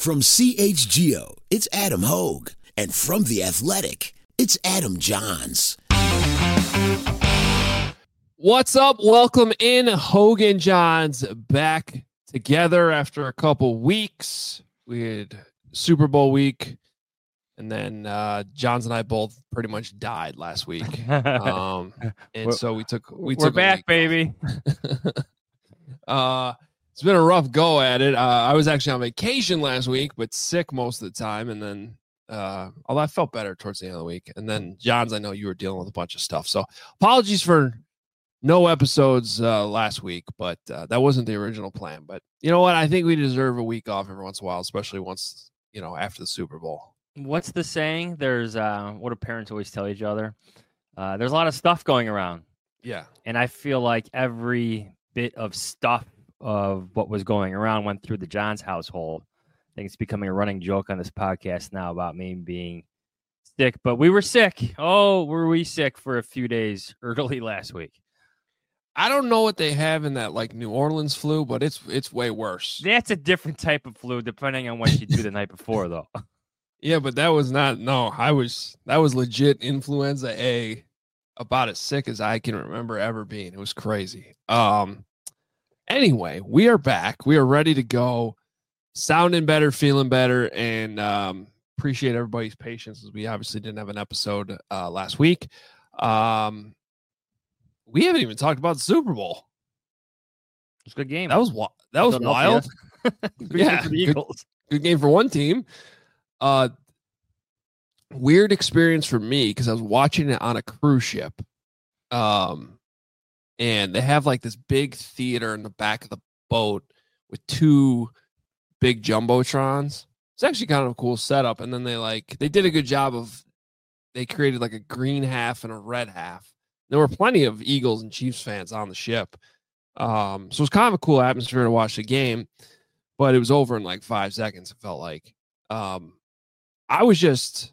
From CHGO, it's Adam Hogue. And from The Athletic, it's Adam Johns. What's up? Welcome in. Hogue and Johns back together after a couple weeks. We had Super Bowl week, and then Johns and I both pretty much died last week. And so we took we're back, baby. It's been a rough go at it. I was actually on vacation last week, but sick most of the time. And then, although I felt better towards the end of the week. And then, Johns, I know you were dealing with a bunch of stuff. So apologies for no episodes last week, but that wasn't the original plan. But you know what? I think we deserve a week off every once in a while, especially once, after the Super Bowl. What's the saying? There's what do parents always tell each other? There's a lot of stuff going around. Yeah. And I feel like every bit of stuff of what was going around went through the Johns household. I think it's becoming a running joke on this podcast now about me being sick, but we were sick. Oh, were we sick for a few days early last week? I don't know what they have in that New Orleans flu, but it's way worse. That's a different type of flu depending on what you do the night before, though. Yeah, but that was not. No, that was legit influenza A, about as sick as I can remember ever being. It was crazy. Anyway, we are back. We are ready to go, sounding better, feeling better, and appreciate everybody's patience as we obviously didn't have an episode last week. We haven't even talked about the Super Bowl. It's a good game. That was wild. Yeah, for the Eagles. Good game for one team. Weird experience for me because I was watching it on a cruise ship. And they have this big theater in the back of the boat with two big jumbotrons. It's actually kind of a cool setup. And then they did a good job they created a green half and a red half. There were plenty of Eagles and Chiefs fans on the ship. So it was kind of a cool atmosphere to watch the game, but it was over in 5 seconds. It felt like, I was just,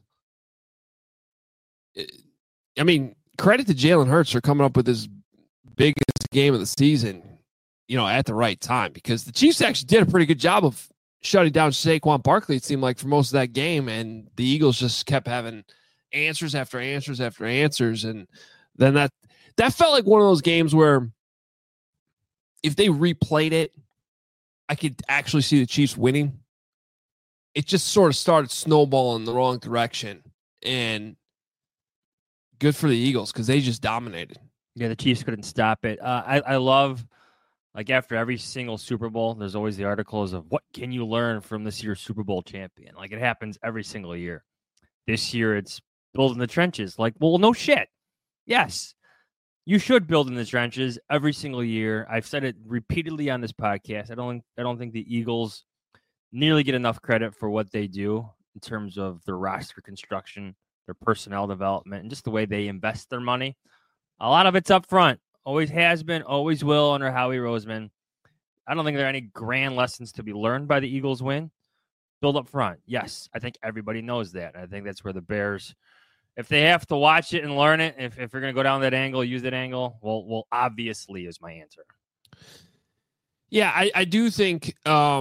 credit to Jalen Hurts for coming up with this biggest game of the season, at the right time, because the Chiefs actually did a pretty good job of shutting down Saquon Barkley, it seemed like, for most of that game, and the Eagles just kept having answers after answers after answers, and then that felt like one of those games where if they replayed it, I could actually see the Chiefs winning. It just sort of started snowballing in the wrong direction, and good for the Eagles because they just dominated. Yeah, the Chiefs couldn't stop it. I love, after every single Super Bowl, there's always the articles of what can you learn from this year's Super Bowl champion. It happens every single year. This year, it's build in the trenches. Well, no shit. Yes, you should build in the trenches every single year. I've said it repeatedly on this podcast. I don't think the Eagles nearly get enough credit for what they do in terms of their roster construction, their personnel development, and just the way they invest their money. A lot of it's up front. Always has been, always will under Howie Roseman. I don't think there are any grand lessons to be learned by the Eagles win. Build up front. Yes, I think everybody knows that. I think that's where the Bears, if they have to watch it and learn it, if you're going to go down that angle, use that angle, well, obviously is my answer. Yeah, I do think,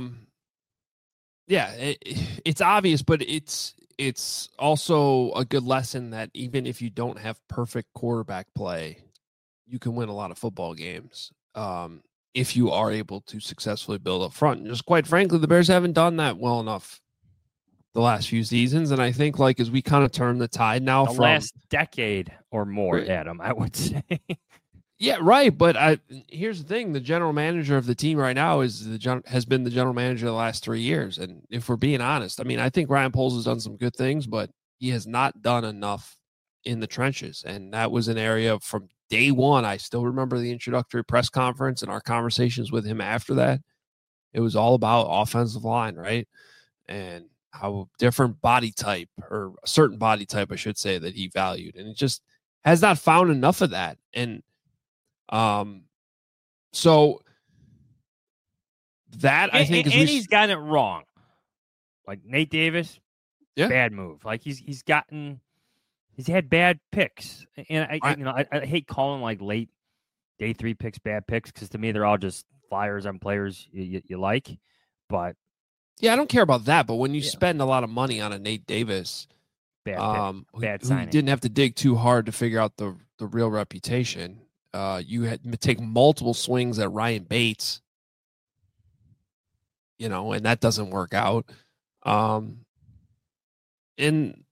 it's obvious, but it's also a good lesson that even if you don't have perfect quarterback play, you can win a lot of football games if you are able to successfully build up front. And just quite frankly, the Bears haven't done that well enough the last few seasons. And I think as we kind of turn the tide now the last decade or more, Adam, I would say. Yeah, right. But here's the thing. The general manager of the team right now has been the general manager the last 3 years. And if we're being honest, I think Ryan Poles has done some good things, but he has not done enough in the trenches. And that was an area from day one. I still remember the introductory press conference and our conversations with him after that. It was all about offensive line, right? And how different body type, or a certain body type, I should say, that he valued. And it just has not found enough of that. And so that I think he's gotten it wrong. Nate Davis, bad move. He's had bad picks, and I hate calling late day 3 picks bad picks because to me they're all just flyers on players you like. But Yeah, I don't care about that, but when you spend a lot of money on a Nate Davis, bad who signing. didn't have to dig too hard to figure out the real reputation, you had to take multiple swings at Ryan Bates, and that doesn't work out. And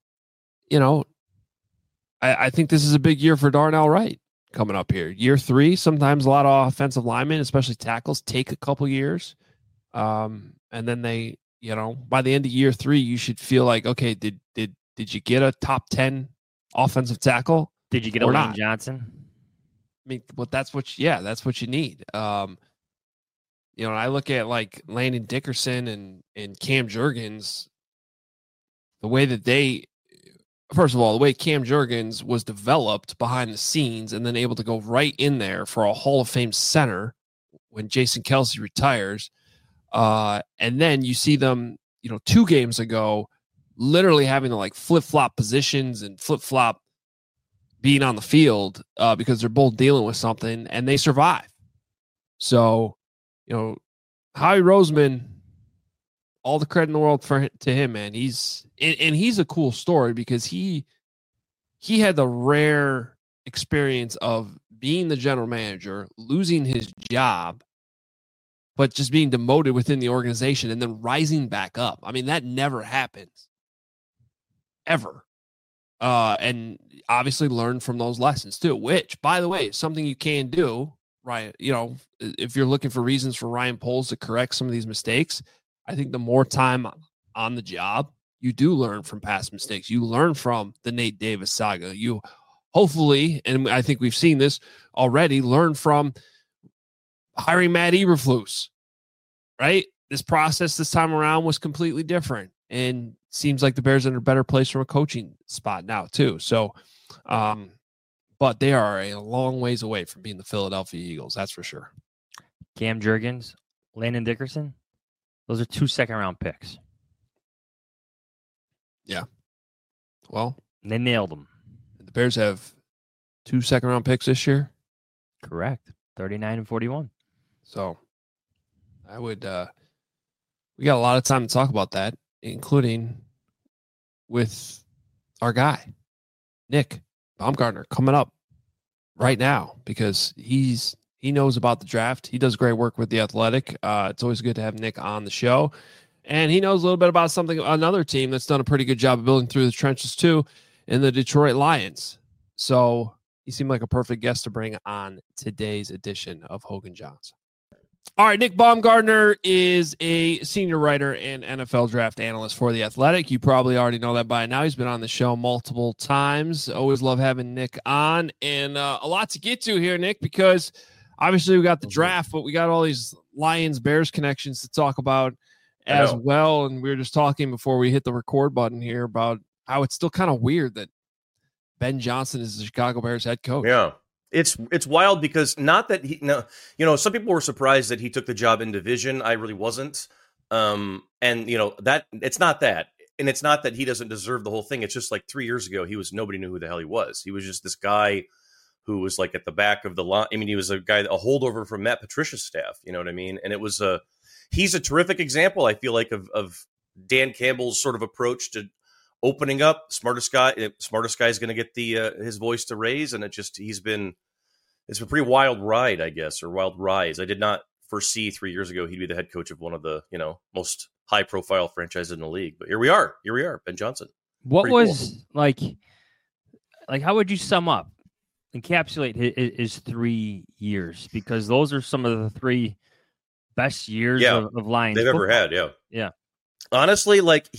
I think this is a big year for Darnell Wright coming up here. Year 3, sometimes a lot of offensive linemen, especially tackles, take a couple years. And then they, by the end of year 3, you should feel like, okay, did you get a top 10 offensive tackle? Did you get a Lane Johnson? I mean, well, that's what you need. I look at like Landon Dickerson and Cam Jurgens, the way that first of all, the way Cam Jurgens was developed behind the scenes and then able to go right in there for a Hall of Fame center when Jason Kelce retires. And then you see them, 2 games ago, literally having to like flip-flop positions and flip-flop being on the field because they're both dealing with something, and they survive. So, Howie Roseman, all the credit in the world to him, man. He's a cool story because he had the rare experience of being the general manager, losing his job, but just being demoted within the organization and then rising back up. I mean, that never happens. Ever. And obviously learn from those lessons too, which, by the way, is something you can do, right? If you're looking for reasons for Ryan Poles to correct some of these mistakes, I think the more time on the job, you do learn from past mistakes. You learn from the Nate Davis saga. You hopefully, and I think we've seen this already, learn from hiring Matt Eberflus, right? This process this time around was completely different, and seems like the Bears are in a better place from a coaching spot now too. So, but they are a long ways away from being the Philadelphia Eagles. That's for sure. Cam Jurgens, Landon Dickerson, those are 2 second-round picks. Yeah. Well, they nailed them. The Bears have 2 second-round picks this year. Correct. 39 and 41. So I would, we got a lot of time to talk about that, including with our guy, Nick Baumgartner, coming up right now because he knows about the draft. He does great work with The Athletic. It's always good to have Nick on the show. And he knows a little bit about another team that's done a pretty good job of building through the trenches too, in the Detroit Lions. So he seemed like a perfect guest to bring on today's edition of Hogan Johnson. All right, Nick Baumgartner is a senior writer and NFL draft analyst for The Athletic. You probably already know that by now. He's been on the show multiple times. Always love having Nick on. And a lot to get to here, Nick, because obviously we got the draft, but we got all these Lions-Bears connections to talk about as well. And we were just talking before we hit the record button here about how it's still kind of weird that Ben Johnson is the Chicago Bears head coach. Yeah. It's wild because not that some people were surprised that he took the job in division. I really wasn't. And that it's not that. And it's not that he doesn't deserve the whole thing. It's just like 3 years ago, nobody knew who the hell he was. He was just this guy who was like at the back of the line. I mean, he was a holdover from Matt Patricia's staff. You know what I mean? And he's a terrific example, I feel like, of Dan Campbell's sort of approach to opening up. Smartest guy is going to get his voice to raise, and it's a pretty wild ride, I guess, or wild rise. I did not foresee 3 years ago he'd be the head coach of one of the most high profile franchises in the league. But here we are, Ben Johnson. What pretty was cool. like? How would you encapsulate his 3 years? Because those are some of the 3 best years of Lions they've football. ever had. Yeah. Honestly, like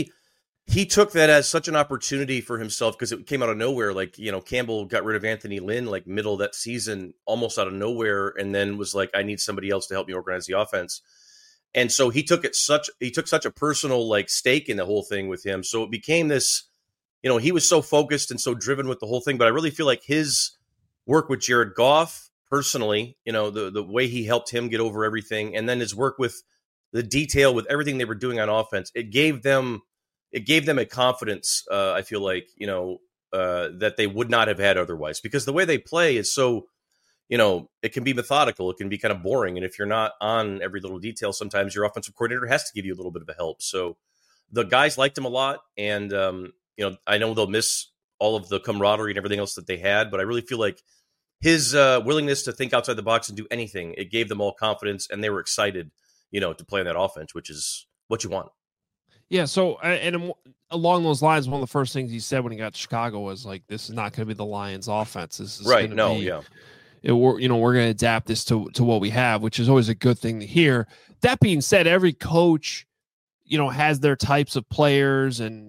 he took that as such an opportunity for himself because it came out of nowhere. Like, Campbell got rid of Anthony Lynn, like middle of that season, almost out of nowhere. And then was like, I need somebody else to help me organize the offense. And so he took such a personal like stake in the whole thing with him. So it became this, he was so focused and so driven with the whole thing. But I really feel like his work with Jared Goff personally, the way he helped him get over everything. And then his work with the detail with everything they were doing on offense, it gave them a confidence, I feel like, that they would not have had otherwise, because the way they play is so, it can be methodical. It can be kind of boring. And if you're not on every little detail, sometimes your offensive coordinator has to give you a little bit of a help. So the guys liked him a lot. And, I know they'll miss all of the camaraderie and everything else that they had, but I really feel like his willingness to think outside the box and do anything, it gave them all confidence, and they were excited, to play on that offense, which is what you want. Yeah. So, and along those lines, one of the first things he said when he got to Chicago was like, "This is not going to be the Lions' offense. This is right." We're going to adapt this to what we have, which is always a good thing to hear. That being said, every coach, has their types of players and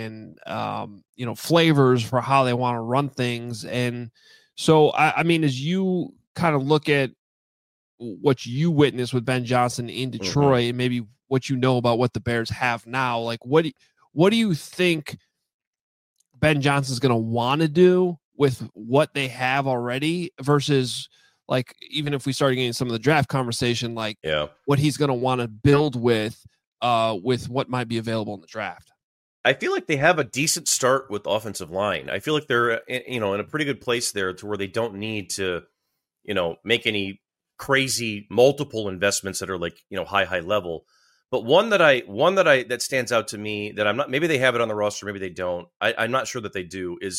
flavors for how they want to run things. And so, I mean, as you kind of look at what you witnessed with Ben Johnson in Detroit, and maybe what about what the Bears have now, like what do you think Ben Johnson's going to want to do with what they have already versus, like, even if we started getting some of the draft conversation, like what he's going to want to build with what might be available in the draft? I feel like they have a decent start with offensive line. I feel like they're, in a pretty good place there to where they don't need to, make any crazy multiple investments that are like, high level. But one that stands out to me that I'm not, maybe they have it on the roster, maybe they don't. I'm not sure that they do, is,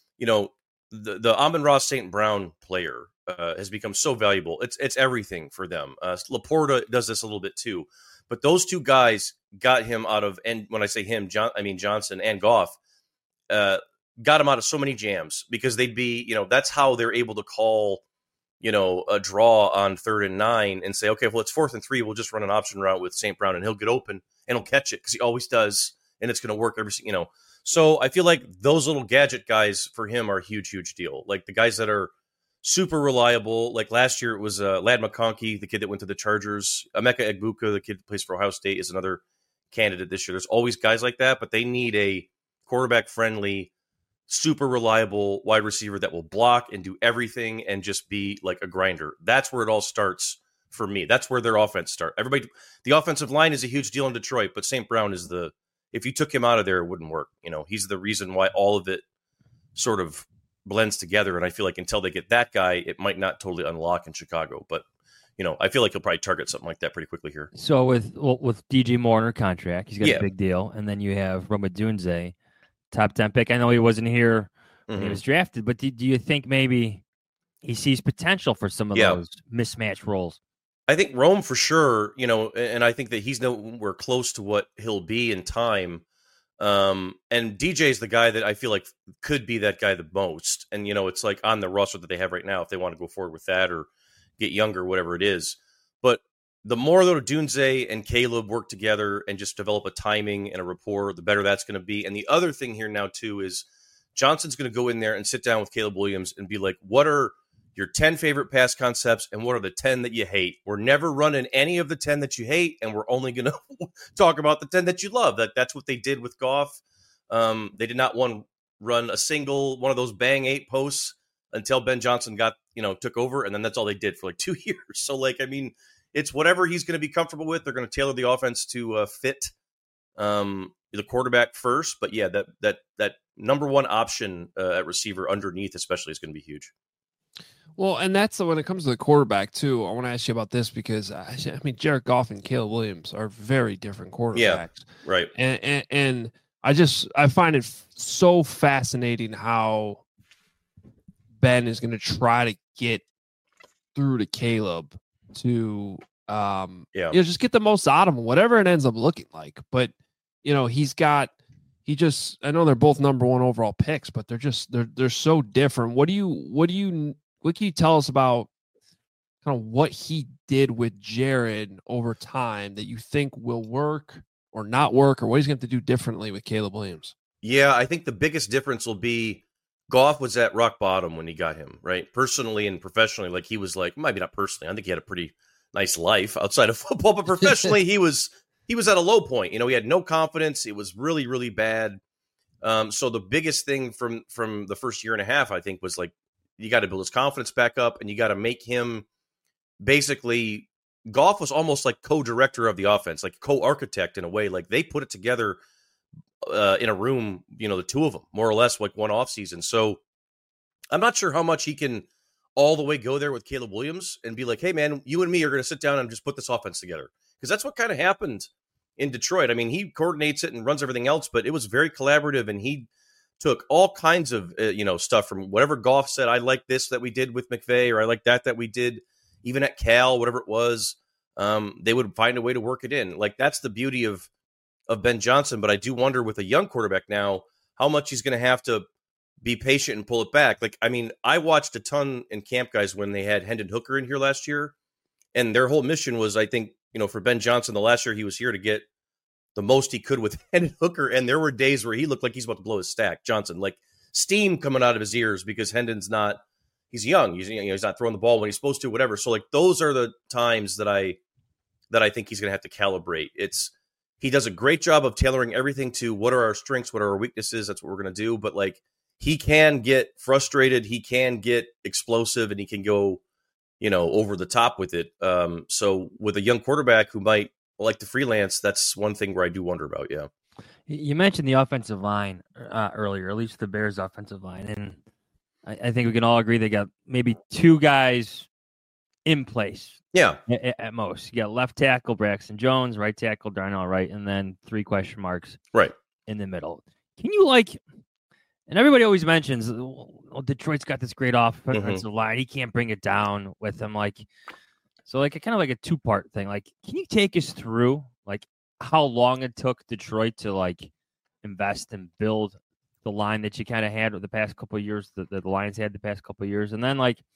the Amon-Ra St. Brown player has become so valuable. It's everything for them. Laporta does this a little bit too, but those two guys got him out of, and when I say him, I mean Johnson and Goff, got him out of so many jams because they'd be, that's how they're able to call, a draw on 3rd and 9 and say, okay, well, it's 4th and 3. We'll just run an option route with St. Brown and he'll get open and he'll catch it because he always does. And it's going to work So I feel like those little gadget guys for him are a huge, huge deal. Like the guys that are super reliable. Like last year it was Ladd McConkey, the kid that went to the Chargers. Emeka Egbuka, the kid that plays for Ohio State, is another candidate this year. There's always guys like that, but they need a quarterback-friendly, super reliable wide receiver that will block and do everything and just be like a grinder. That's where it all starts for me. That's where their offense starts. The offensive line is a huge deal in Detroit, but St. Brown is if you took him out of there, it wouldn't work. He's the reason why all of it sort of blends together. And I feel like until they get that guy, it might not totally unlock in Chicago. But, I feel like he'll probably target something like that pretty quickly here. So with DJ Moore under contract, he's got a big deal. And then you have Rome Odunze, top 10 pick. I know he wasn't here when he was drafted, but do you think maybe he sees potential for some of those mismatched roles? I think Rome for sure, and I think that he's nowhere close to what he'll be in time. And DJ is the guy that I feel like could be that guy the most. And, it's like on the roster that they have right now, if they want to go forward with that or get younger, whatever it is. But the more that Odunze and Caleb work together and just develop a timing and a rapport, the better that's going to be. And the other thing here now, too, is Johnson's going to go in there and sit down with Caleb Williams and be like, what are your 10 favorite pass concepts and what are the 10 that you hate? We're never running any of the 10 that you hate, and we're only going to talk about the 10 that you love. That's what they did with Goff. They did not run a single one of those bang 8 posts until Ben Johnson took over, and then that's all they did for like 2 years. So, it's whatever he's going to be comfortable with. They're going to tailor the offense to fit the quarterback first. But, yeah, that number one option at receiver underneath especially is going to be huge. Well, and that's when it comes to the quarterback, too. I want to ask you about this because, Jared Goff and Caleb Williams are very different quarterbacks. Yeah, right. And I find it so fascinating how Ben is going to try to get through to Caleb to just get the most out of him, whatever it ends up looking like. But, I know they're both number one overall picks, but they're so different. What can you tell us about kind of what he did with Jared over time that you think will work or not work, or what he's going to have to do differently with Caleb Williams? Yeah, I think the biggest difference will be Goff was at rock bottom when he got him, right? Personally and professionally, he was maybe not personally. I think he had a pretty nice life outside of football, but professionally, he was at a low point. He had no confidence. It was really, really bad. So the biggest thing from the first year and a half, I think, was you got to build his confidence back up, and you got to make him basically. Goff was almost like co-director of the offense, like co-architect in a way. They put it together in a room, the two of them, more or less, one offseason. So I'm not sure how much he can all the way go there with Caleb Williams and be like, hey, man, you and me are going to sit down and just put this offense together. Because that's what kind of happened in Detroit. I mean, he coordinates it and runs everything else, but it was very collaborative, and he took all kinds of stuff from whatever Goff said. I like this that we did with McVay, or I like that we did even at Cal, whatever it was. They would find a way to work it in. Like, that's the beauty of Ben Johnson. But I do wonder with a young quarterback now how much he's going to have to be patient and pull it back. Like, I mean, I watched a ton in camp, guys, when they had Hendon Hooker in here last year, and their whole mission was, I think, for Ben Johnson, the last year he was here to get the most he could with Hendon Hooker, and there were days where he looked like he's about to blow his stack, Johnson, like steam coming out of his ears because Hendon's not, he's young, he's not throwing the ball when he's supposed to, whatever. So like those are the times that I think he's going to have to calibrate. He does a great job of tailoring everything to what are our strengths, what are our weaknesses. That's what we're going to do. But like, he can get frustrated, he can get explosive, and he can go, over the top with it. So with a young quarterback who might like to freelance, that's one thing where I do wonder about. Yeah. You mentioned the offensive line earlier, at least the Bears' offensive line. And I think we can all agree they got maybe two guys in place. Yeah. At most. You got left tackle Braxton Jones, right tackle Darnell Wright, and then 3 question marks right in the middle. Can you and everybody always mentions, Detroit's got this great offensive line. He can't bring it down with him. So kind of like a 2-part thing. Like, can you take us through how long it took Detroit to invest and build the line that you kind of had with the past couple of years, that the Lions had the past couple of years? And then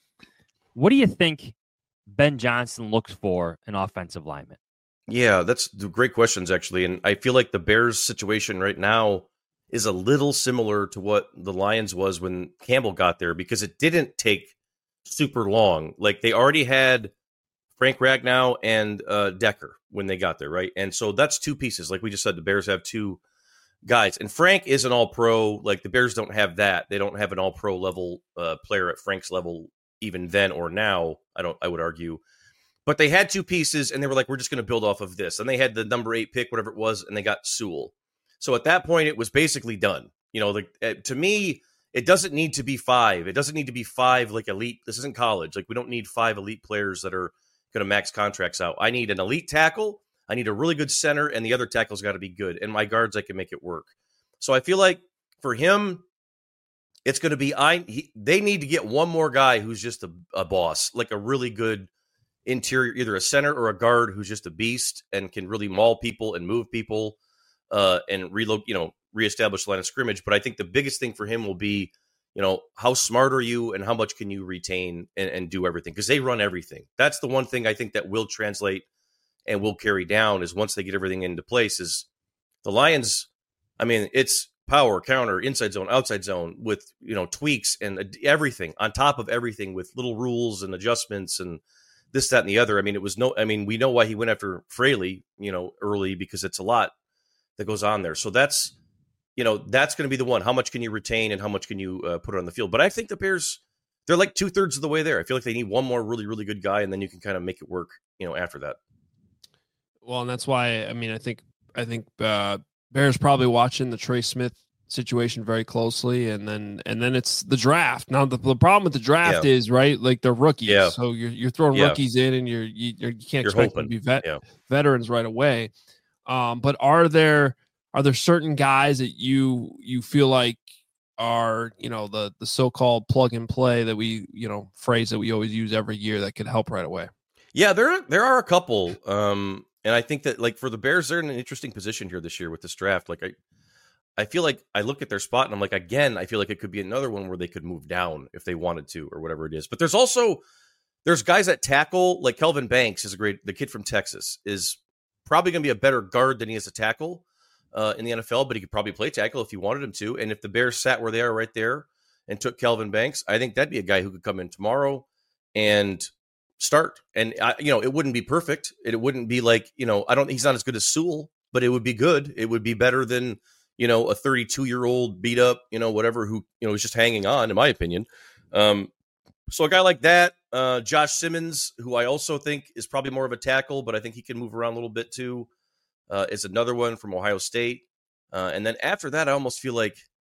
what do you think Ben Johnson looks for in offensive linemen? Yeah, that's great questions, actually. And I feel like the Bears situation right now is a little similar to what the Lions was when Campbell got there, because it didn't take super long. Like, they already had Frank Ragnow and Decker when they got there, right? And so that's 2 pieces. Like we just said, the Bears have 2 guys. And Frank is an all-pro. Like, the Bears don't have that. They don't have an all-pro level player at Frank's level even then or now, I would argue. But they had 2 pieces, and they were like, we're just going to build off of this. And they had the number 8 pick, whatever it was, and they got Sewell. So at that point, it was basically done. To me, it doesn't need to be 5. It doesn't need to be 5 elite. This isn't college. We don't need 5 elite players that are going to max contracts out. I need an elite tackle. I need a really good center, and the other tackle's got to be good. And my guards, I can make it work. So I feel like for him, it's going to be they need to get one more guy who's just a boss, like a really good interior, either a center or a guard who's just a beast and can really maul people and move people and reestablish the line of scrimmage. But I think the biggest thing for him will be, how smart are you and how much can you retain and do everything? Because they run everything. That's the one thing I think that will translate and will carry down, is once they get everything into place, is the Lions. I mean, it's power, counter, inside zone, outside zone, with tweaks and everything on top of everything, with little rules and adjustments and this, that, and the other. I mean, we know why he went after Fraley, early, because it's a lot that goes on there. So that's going to be the one. How much can you retain and how much can you put on the field? But I think the Bears, they're like 2/3 of the way there. I feel like they need one more really, really good guy, and then you can kind of make it work, after that. Well, and that's why, I think Bears probably watching the Trey Smith situation very closely, and then it's the draft. Now the problem with the draft is, right, like they're rookies, so you're throwing rookies in, and you can't expect them to be veterans right away. But are there certain guys that you feel like are the so-called plug and play that we phrase that we always use every year that could help right away? Yeah, there are a couple. And I think that, for the Bears, they're in an interesting position here this year with this draft. I feel like I look at their spot and I'm like, again, I feel like it could be another one where they could move down if they wanted to, or whatever it is. But there's guys at tackle, like Kelvin Banks the kid from Texas, is probably going to be a better guard than he is a tackle in the NFL, but he could probably play tackle if you wanted him to. And if the Bears sat where they are right there and took Kelvin Banks, I think that'd be a guy who could come in tomorrow and start. And it wouldn't be perfect. It wouldn't be like, he's not as good as Sewell, but it would be good. It would be better than, a 32-year-old beat up, whatever, who, is just hanging on, in my opinion. So a guy like that, Josh Simmons, who I also think is probably more of a tackle, but I think he can move around a little bit too, is another one from Ohio State. And then after that, I almost feel like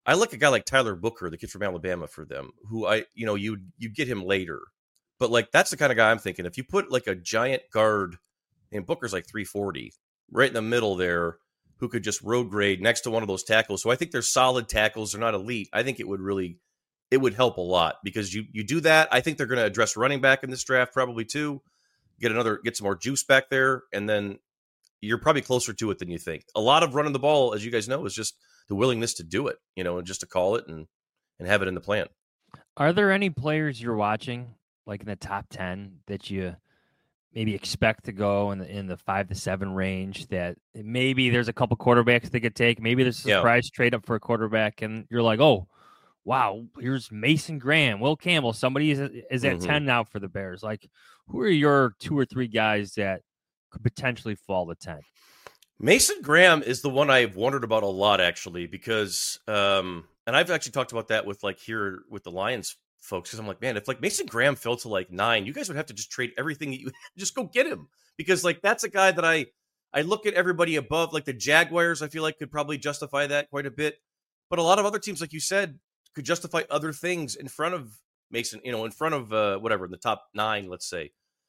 I like a guy like Tyler Booker, the kid from Alabama, for them, who you get him later. But like that's the kind of guy I'm thinking. If you put like a giant guard, and Booker's like 340, right in the middle there, who could just road grade next to one of those tackles. So I think they're solid tackles. They're not elite. I think it would help a lot because you do that. I think they're going to address running back in this draft probably too. Get some more juice back there, and then you're probably closer to it than you think. A lot of running the ball, as you guys know, is just the willingness to do it, and just to call it and have it in the plan. Are there any players you're watching, like in the top 10, that you maybe expect to go in the 5 to 7 range, that maybe there's a couple quarterbacks they could take? Maybe there's a surprise trade up for a quarterback, and you're like, oh, wow, here's Mason Graham, Will Campbell. Somebody is at 10 now for the Bears. Like, who are your 2 or 3 guys that could potentially fall to 10? Mason Graham is the one I've wondered about a lot, actually, because and I've actually talked about that with here with the Lions folks, because I'm like, man, if like Mason Graham fell to like 9, you guys would have to just trade everything that you just go get him, because like that's a guy that I look at everybody above, like the Jaguars, I feel like could probably justify that quite a bit, but a lot of other teams, like you said, could justify other things in front of Mason, in front of whatever in the top 9, let's say.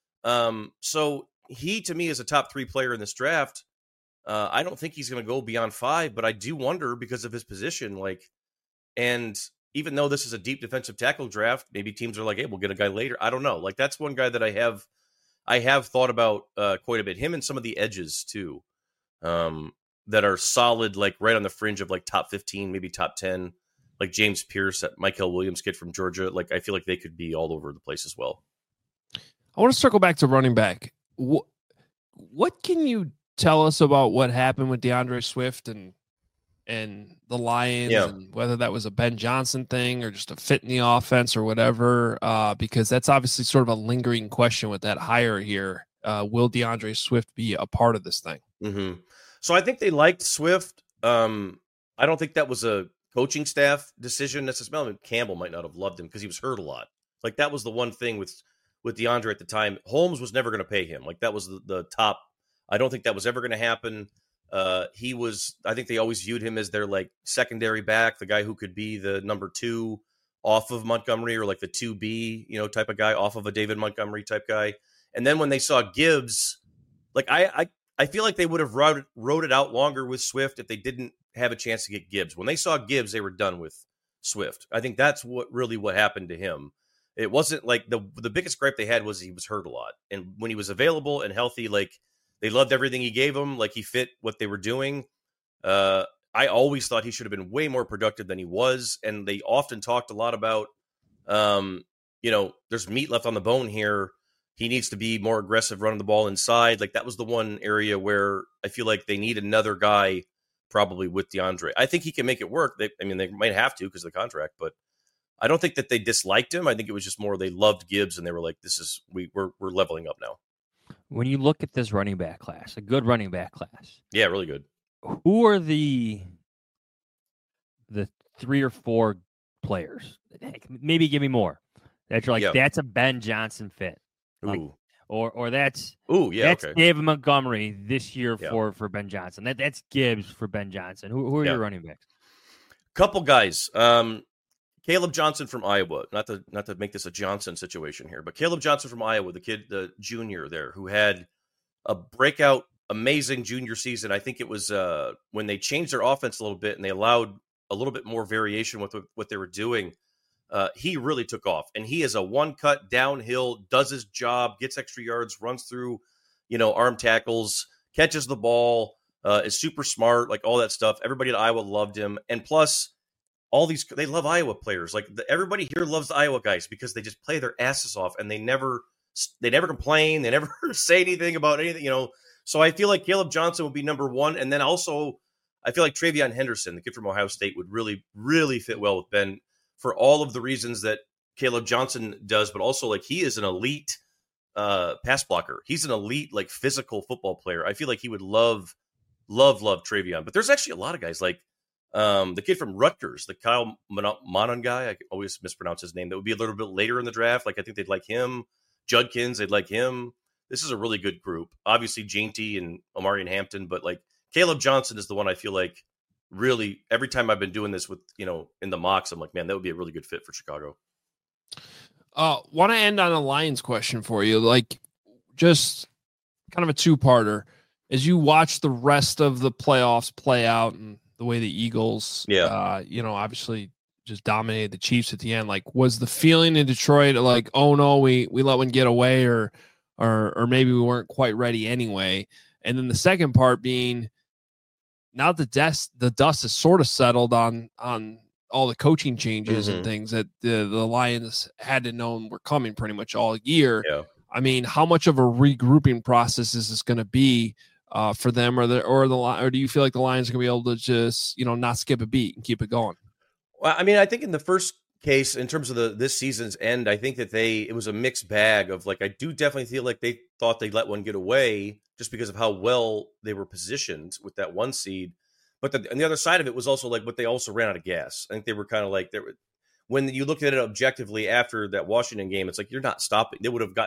So he to me is a top 3 player in this draft. I don't think he's going to go beyond 5, but I do wonder because of his position, and even though this is a deep defensive tackle draft, maybe teams are like, hey, we'll get a guy later. I don't know. Like that's one guy that I have thought about quite a bit. Him and some of the edges too, that are solid, like right on the fringe of like top 15, maybe top 10, like James Pierce, that Michael Williams kid from Georgia. Like I feel like they could be all over the place as well. I want to circle back to running back. What can you tell us about what happened with DeAndre Swift and the Lions, and whether that was a Ben Johnson thing or just a fit in the offense or whatever, because that's obviously sort of a lingering question with that hire here. Will DeAndre Swift be a part of this thing? Mm-hmm. So I think they liked Swift. I don't think that was a coaching staff decision necessarily. I mean, Campbell might not have loved him because he was hurt a lot. Like that was the one thing with DeAndre at the time. Holmes was never going to pay him. Like that was the top. I don't think that was ever going to happen. I think they always viewed him as their like secondary back, the guy who could be the number 2 off of Montgomery, or like the 2B, type of guy off of a David Montgomery type guy. And then when they saw Gibbs, like I feel like they would have wrote it out longer with Swift if they didn't have a chance to get Gibbs. When they saw Gibbs, they were done with Swift. I think that's what happened to him. It wasn't like the biggest gripe they had was he was hurt a lot. And when he was available and healthy, like they loved everything he gave them. Like he fit what they were doing. I always thought he should have been way more productive than he was. And they often talked a lot about, there's meat left on the bone here. He needs to be more aggressive running the ball inside. Like that was the one area where I feel like they need another guy probably with DeAndre. I think he can make it work. They might have to because of the contract, but I don't think that they disliked him. I think it was just more they loved Gibbs and they were like, we're leveling up now. When you look at this running back class, a good running back class. Yeah, really good. Who are the 3 or 4 players? Heck, maybe give me more. That you're like, that's a Ben Johnson fit. Like, or that's okay. David Montgomery this year for Ben Johnson. That's Gibbs for Ben Johnson. Who are your running backs? Couple guys. Caleb Johnson from Iowa. Not to make this a Johnson situation here, but Caleb Johnson from Iowa, the kid, the junior there, who had a breakout, amazing junior season. I think it was when they changed their offense a little bit and they allowed a little bit more variation with what they were doing. He really took off, and he is a one-cut downhill, does his job, gets extra yards, runs through, arm tackles, catches the ball, is super smart, like all that stuff. Everybody at Iowa loved him, and plus, they love Iowa players. Like everybody here loves the Iowa guys because they just play their asses off, and they never complain, they never say anything about anything, So I feel like Caleb Johnson would be number 1, and then also I feel like Travion Henderson, the kid from Ohio State, would really, really fit well with Ben, for all of the reasons that Caleb Johnson does, but also like he is an elite pass blocker. He's an elite, like physical football player. I feel like he would love Travion. But there's actually a lot of guys like the kid from Rutgers, the Kyle Monon guy. I always mispronounce his name. That would be a little bit later in the draft. Like I think they'd like him. Judkins, they'd like him. This is a really good group. Obviously, Jainty and Omarion Hampton, but like Caleb Johnson is the one I feel like really, every time I've been doing this with, in the mocks, I'm like, man, that would be a really good fit for Chicago. Want to end on a Lions question for you, like just kind of a two-parter. As you watch the rest of the playoffs play out and the way the Eagles, obviously just dominated the Chiefs at the end, like was the feeling in Detroit like, oh no, we let one get away, or maybe we weren't quite ready anyway? And then the second part being, now the dust is sort of settled on all the coaching changes and things that the Lions had to know were coming pretty much all year. Yeah. I mean, how much of a regrouping process is this going to be for them, or do you feel like the Lions are going to be able to just, not skip a beat and keep it going? Well, I mean, I think in the first case, in terms of this season's end, I think that it was a mixed bag of like, I do definitely feel like they thought they'd let one get away just because of how well they were positioned with that 1 seed. But on the other side of it was also like, but they also ran out of gas. I think they were kind of like, when you looked at it objectively after that Washington game, it's like, you're not stopping.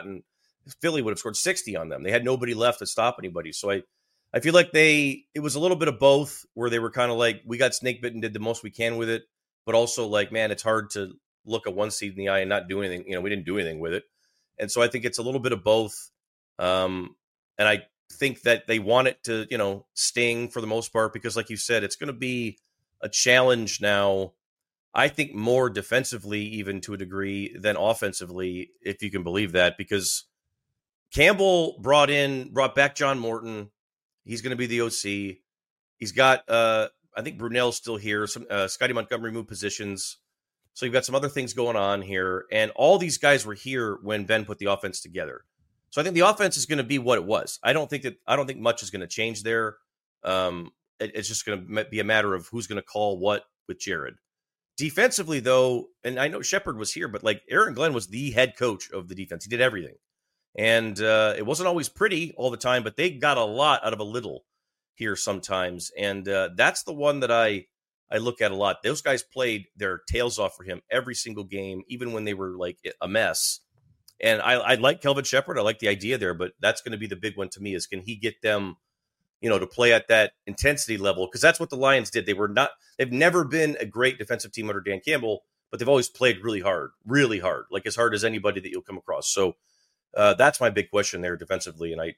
Philly would have scored 60 on them. They had nobody left to stop anybody. So I feel like it was a little bit of both, where they were kind of like, we got snake bitten, did the most we can with it, but also like, man, it's hard to look a 1 seed in the eye and not do anything. We didn't do anything with it. And so I think it's a little bit of both. And I think that they want it to, sting for the most part, because like you said, it's going to be a challenge now, I think more defensively, even to a degree, than offensively, if you can believe that, because Campbell brought back John Morton. He's going to be the OC. He's got, I think Brunell's still here. Some Scotty Montgomery moved positions. So you've got some other things going on here. And all these guys were here when Ben put the offense together. So I think the offense is going to be what it was. I don't think much is going to change there. It's just going to be a matter of who's going to call what with Jared. Defensively, though, and I know Shepard was here, but like Aaron Glenn was the head coach of the defense. He did everything. And it wasn't always pretty all the time, but they got a lot out of a little here sometimes. And that's the one that I look at a lot. Those guys played their tails off for him every single game, even when they were like a mess. And I like Kelvin Shepard. I like the idea there, but that's going to be the big one to me, is can he get them, to play at that intensity level? Because that's what the Lions did. They've never been a great defensive team under Dan Campbell, but they've always played really hard, like as hard as anybody that you'll come across. So that's my big question there defensively. And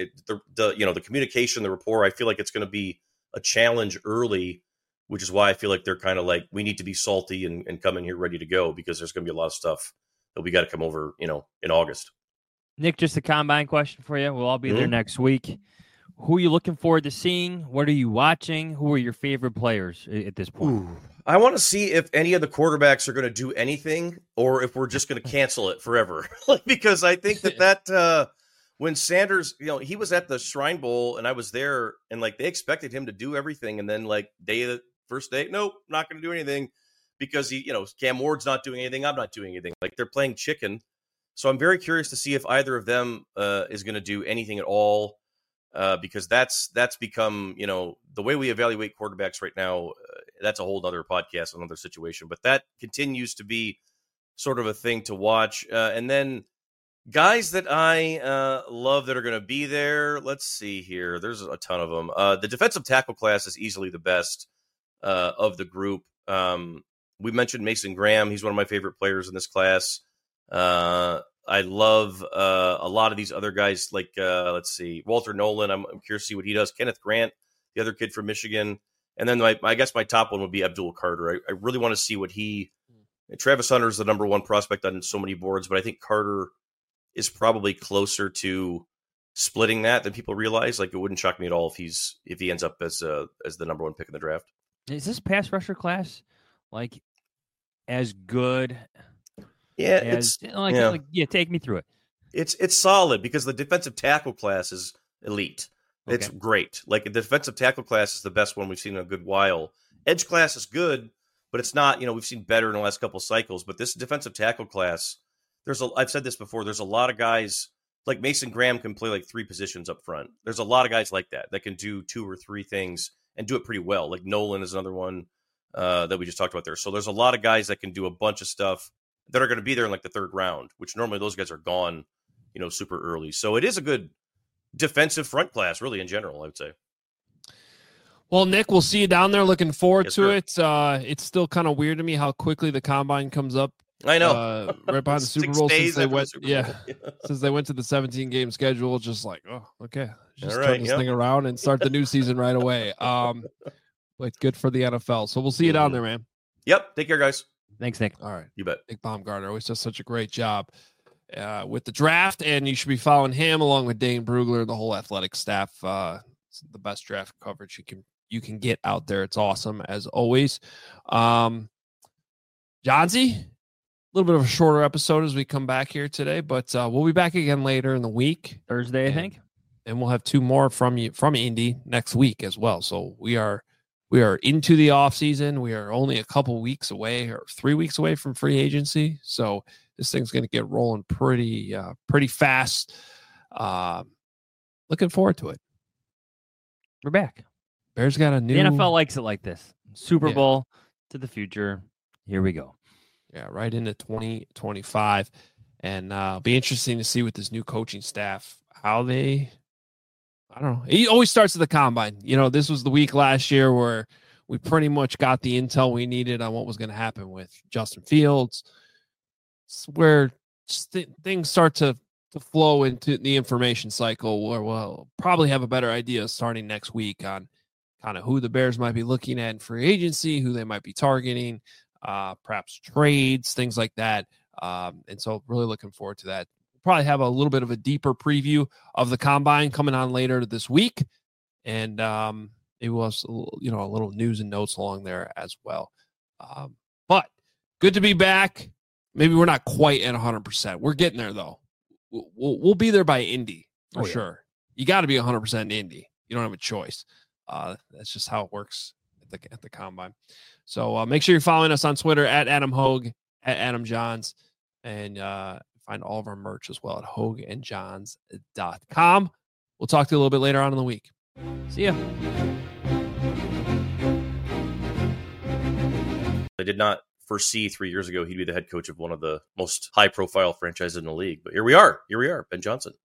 the communication, the rapport, I feel like it's going to be a challenge early, which is why I feel like they're kind of like, we need to be salty and come in here ready to go, because there's going to be a lot of stuff that we got to come over, in August. Nick, just a combine question for you. We'll all be there next week. Who are you looking forward to seeing? What are you watching? Who are your favorite players at this point? I want to see if any of the quarterbacks are going to do anything, or if we're just going to cancel it forever. Because I think that when Sanders, he was at the Shrine Bowl and I was there, and like they expected him to do everything, and then like first day, nope, not going to do anything. Because Cam Ward's not doing anything, I'm not doing anything. Like they're playing chicken. So I'm very curious to see if either of them is going to do anything at all. Because that's become, the way we evaluate quarterbacks right now, that's a whole other podcast, another situation. But that continues to be sort of a thing to watch. And then guys that I love that are going to be there. Let's see here. There's a ton of them. The defensive tackle class is easily the best of the group. We mentioned Mason Graham. He's one of my favorite players in this class. I love a lot of these other guys, like, let's see, Walter Nolan. I'm curious to see what he does. Kenneth Grant, the other kid from Michigan. And then I guess my top one would be Abdul Carter. I really want to see what Travis Hunter is the number one prospect on so many boards, but I think Carter is probably closer to splitting that than people realize. Like, it wouldn't shock me at all if he ends up as the number one pick in the draft. Is this pass rusher class like as good? Yeah, take me through it. It's solid because the defensive tackle class is elite. Okay. It's great. Like, the defensive tackle class is the best one we've seen in a good while. Edge class is good, but it's not, we've seen better in the last couple of cycles. But this defensive tackle class, I've said this before, there's a lot of guys, like Mason Graham can play like 3 positions up front. There's a lot of guys like that can do 2 or 3 things and do it pretty well. Like Nolan is another one that we just talked about there. So there's a lot of guys that can do a bunch of stuff that are going to be there in like the 3rd round, which normally those guys are gone, super early. So it is a good defensive front class, really, in general, I would say. Well, Nick, we'll see you down there. Looking forward Yes, to sir. it. It's still kind of weird to me how quickly the combine comes up. I know. Right behind the 6 Super Bowl days since they after the went. Super Yeah, Bowl. since they went to the 17-game schedule. Just like, oh, okay, just All turn right, this yep. thing around and start the new season right away. But good for the NFL. So we'll see you down there, man. Yep. Take care, guys. Thanks, Nick. All right. You bet. Nick Baumgartner always does such a great job with the draft, and you should be following him along with Dane Brugler, the whole athletic staff. It's the best draft coverage you can get out there. It's awesome as always. Johnsy, a little bit of a shorter episode as we come back here today, but we'll be back again later in the week, Thursday, I think, and we'll have 2 more from Indy next week as well. So we are into the off season. We are only a couple weeks away, or 3 weeks away from free agency. So this thing's going to get rolling pretty fast. Looking forward to it. we're back. Bears got a new. The NFL likes it like this. Super Bowl to the future. Here we go. Yeah, right into 2025. And be interesting to see with this new coaching staff how they. I don't know. He always starts at the combine. This was the week last year where we pretty much got the intel we needed on what was going to happen with Justin Fields. It's where things start to flow into the information cycle where we'll probably have a better idea starting next week on kind of who the Bears might be looking at in free agency, who they might be targeting, perhaps trades, things like that. And so really looking forward to that. Probably have a little bit of a deeper preview of the combine coming on later this week. And it was, a little news and notes along there as well. But good to be back. Maybe we're not quite at 100%. We're getting there though. We'll be there by Indy for sure. You got to be 100% Indy. You don't have a choice. That's just how it works at the combine. So make sure you're following us on Twitter at Adam Hogue, at Adam Johns, and find all of our merch as well at hogueandjohns.com. We'll talk to you a little bit later on in the week. See ya. I did not foresee 3 years ago he'd be the head coach of one of the most high-profile franchises in the league. But here we are. Ben Johnson.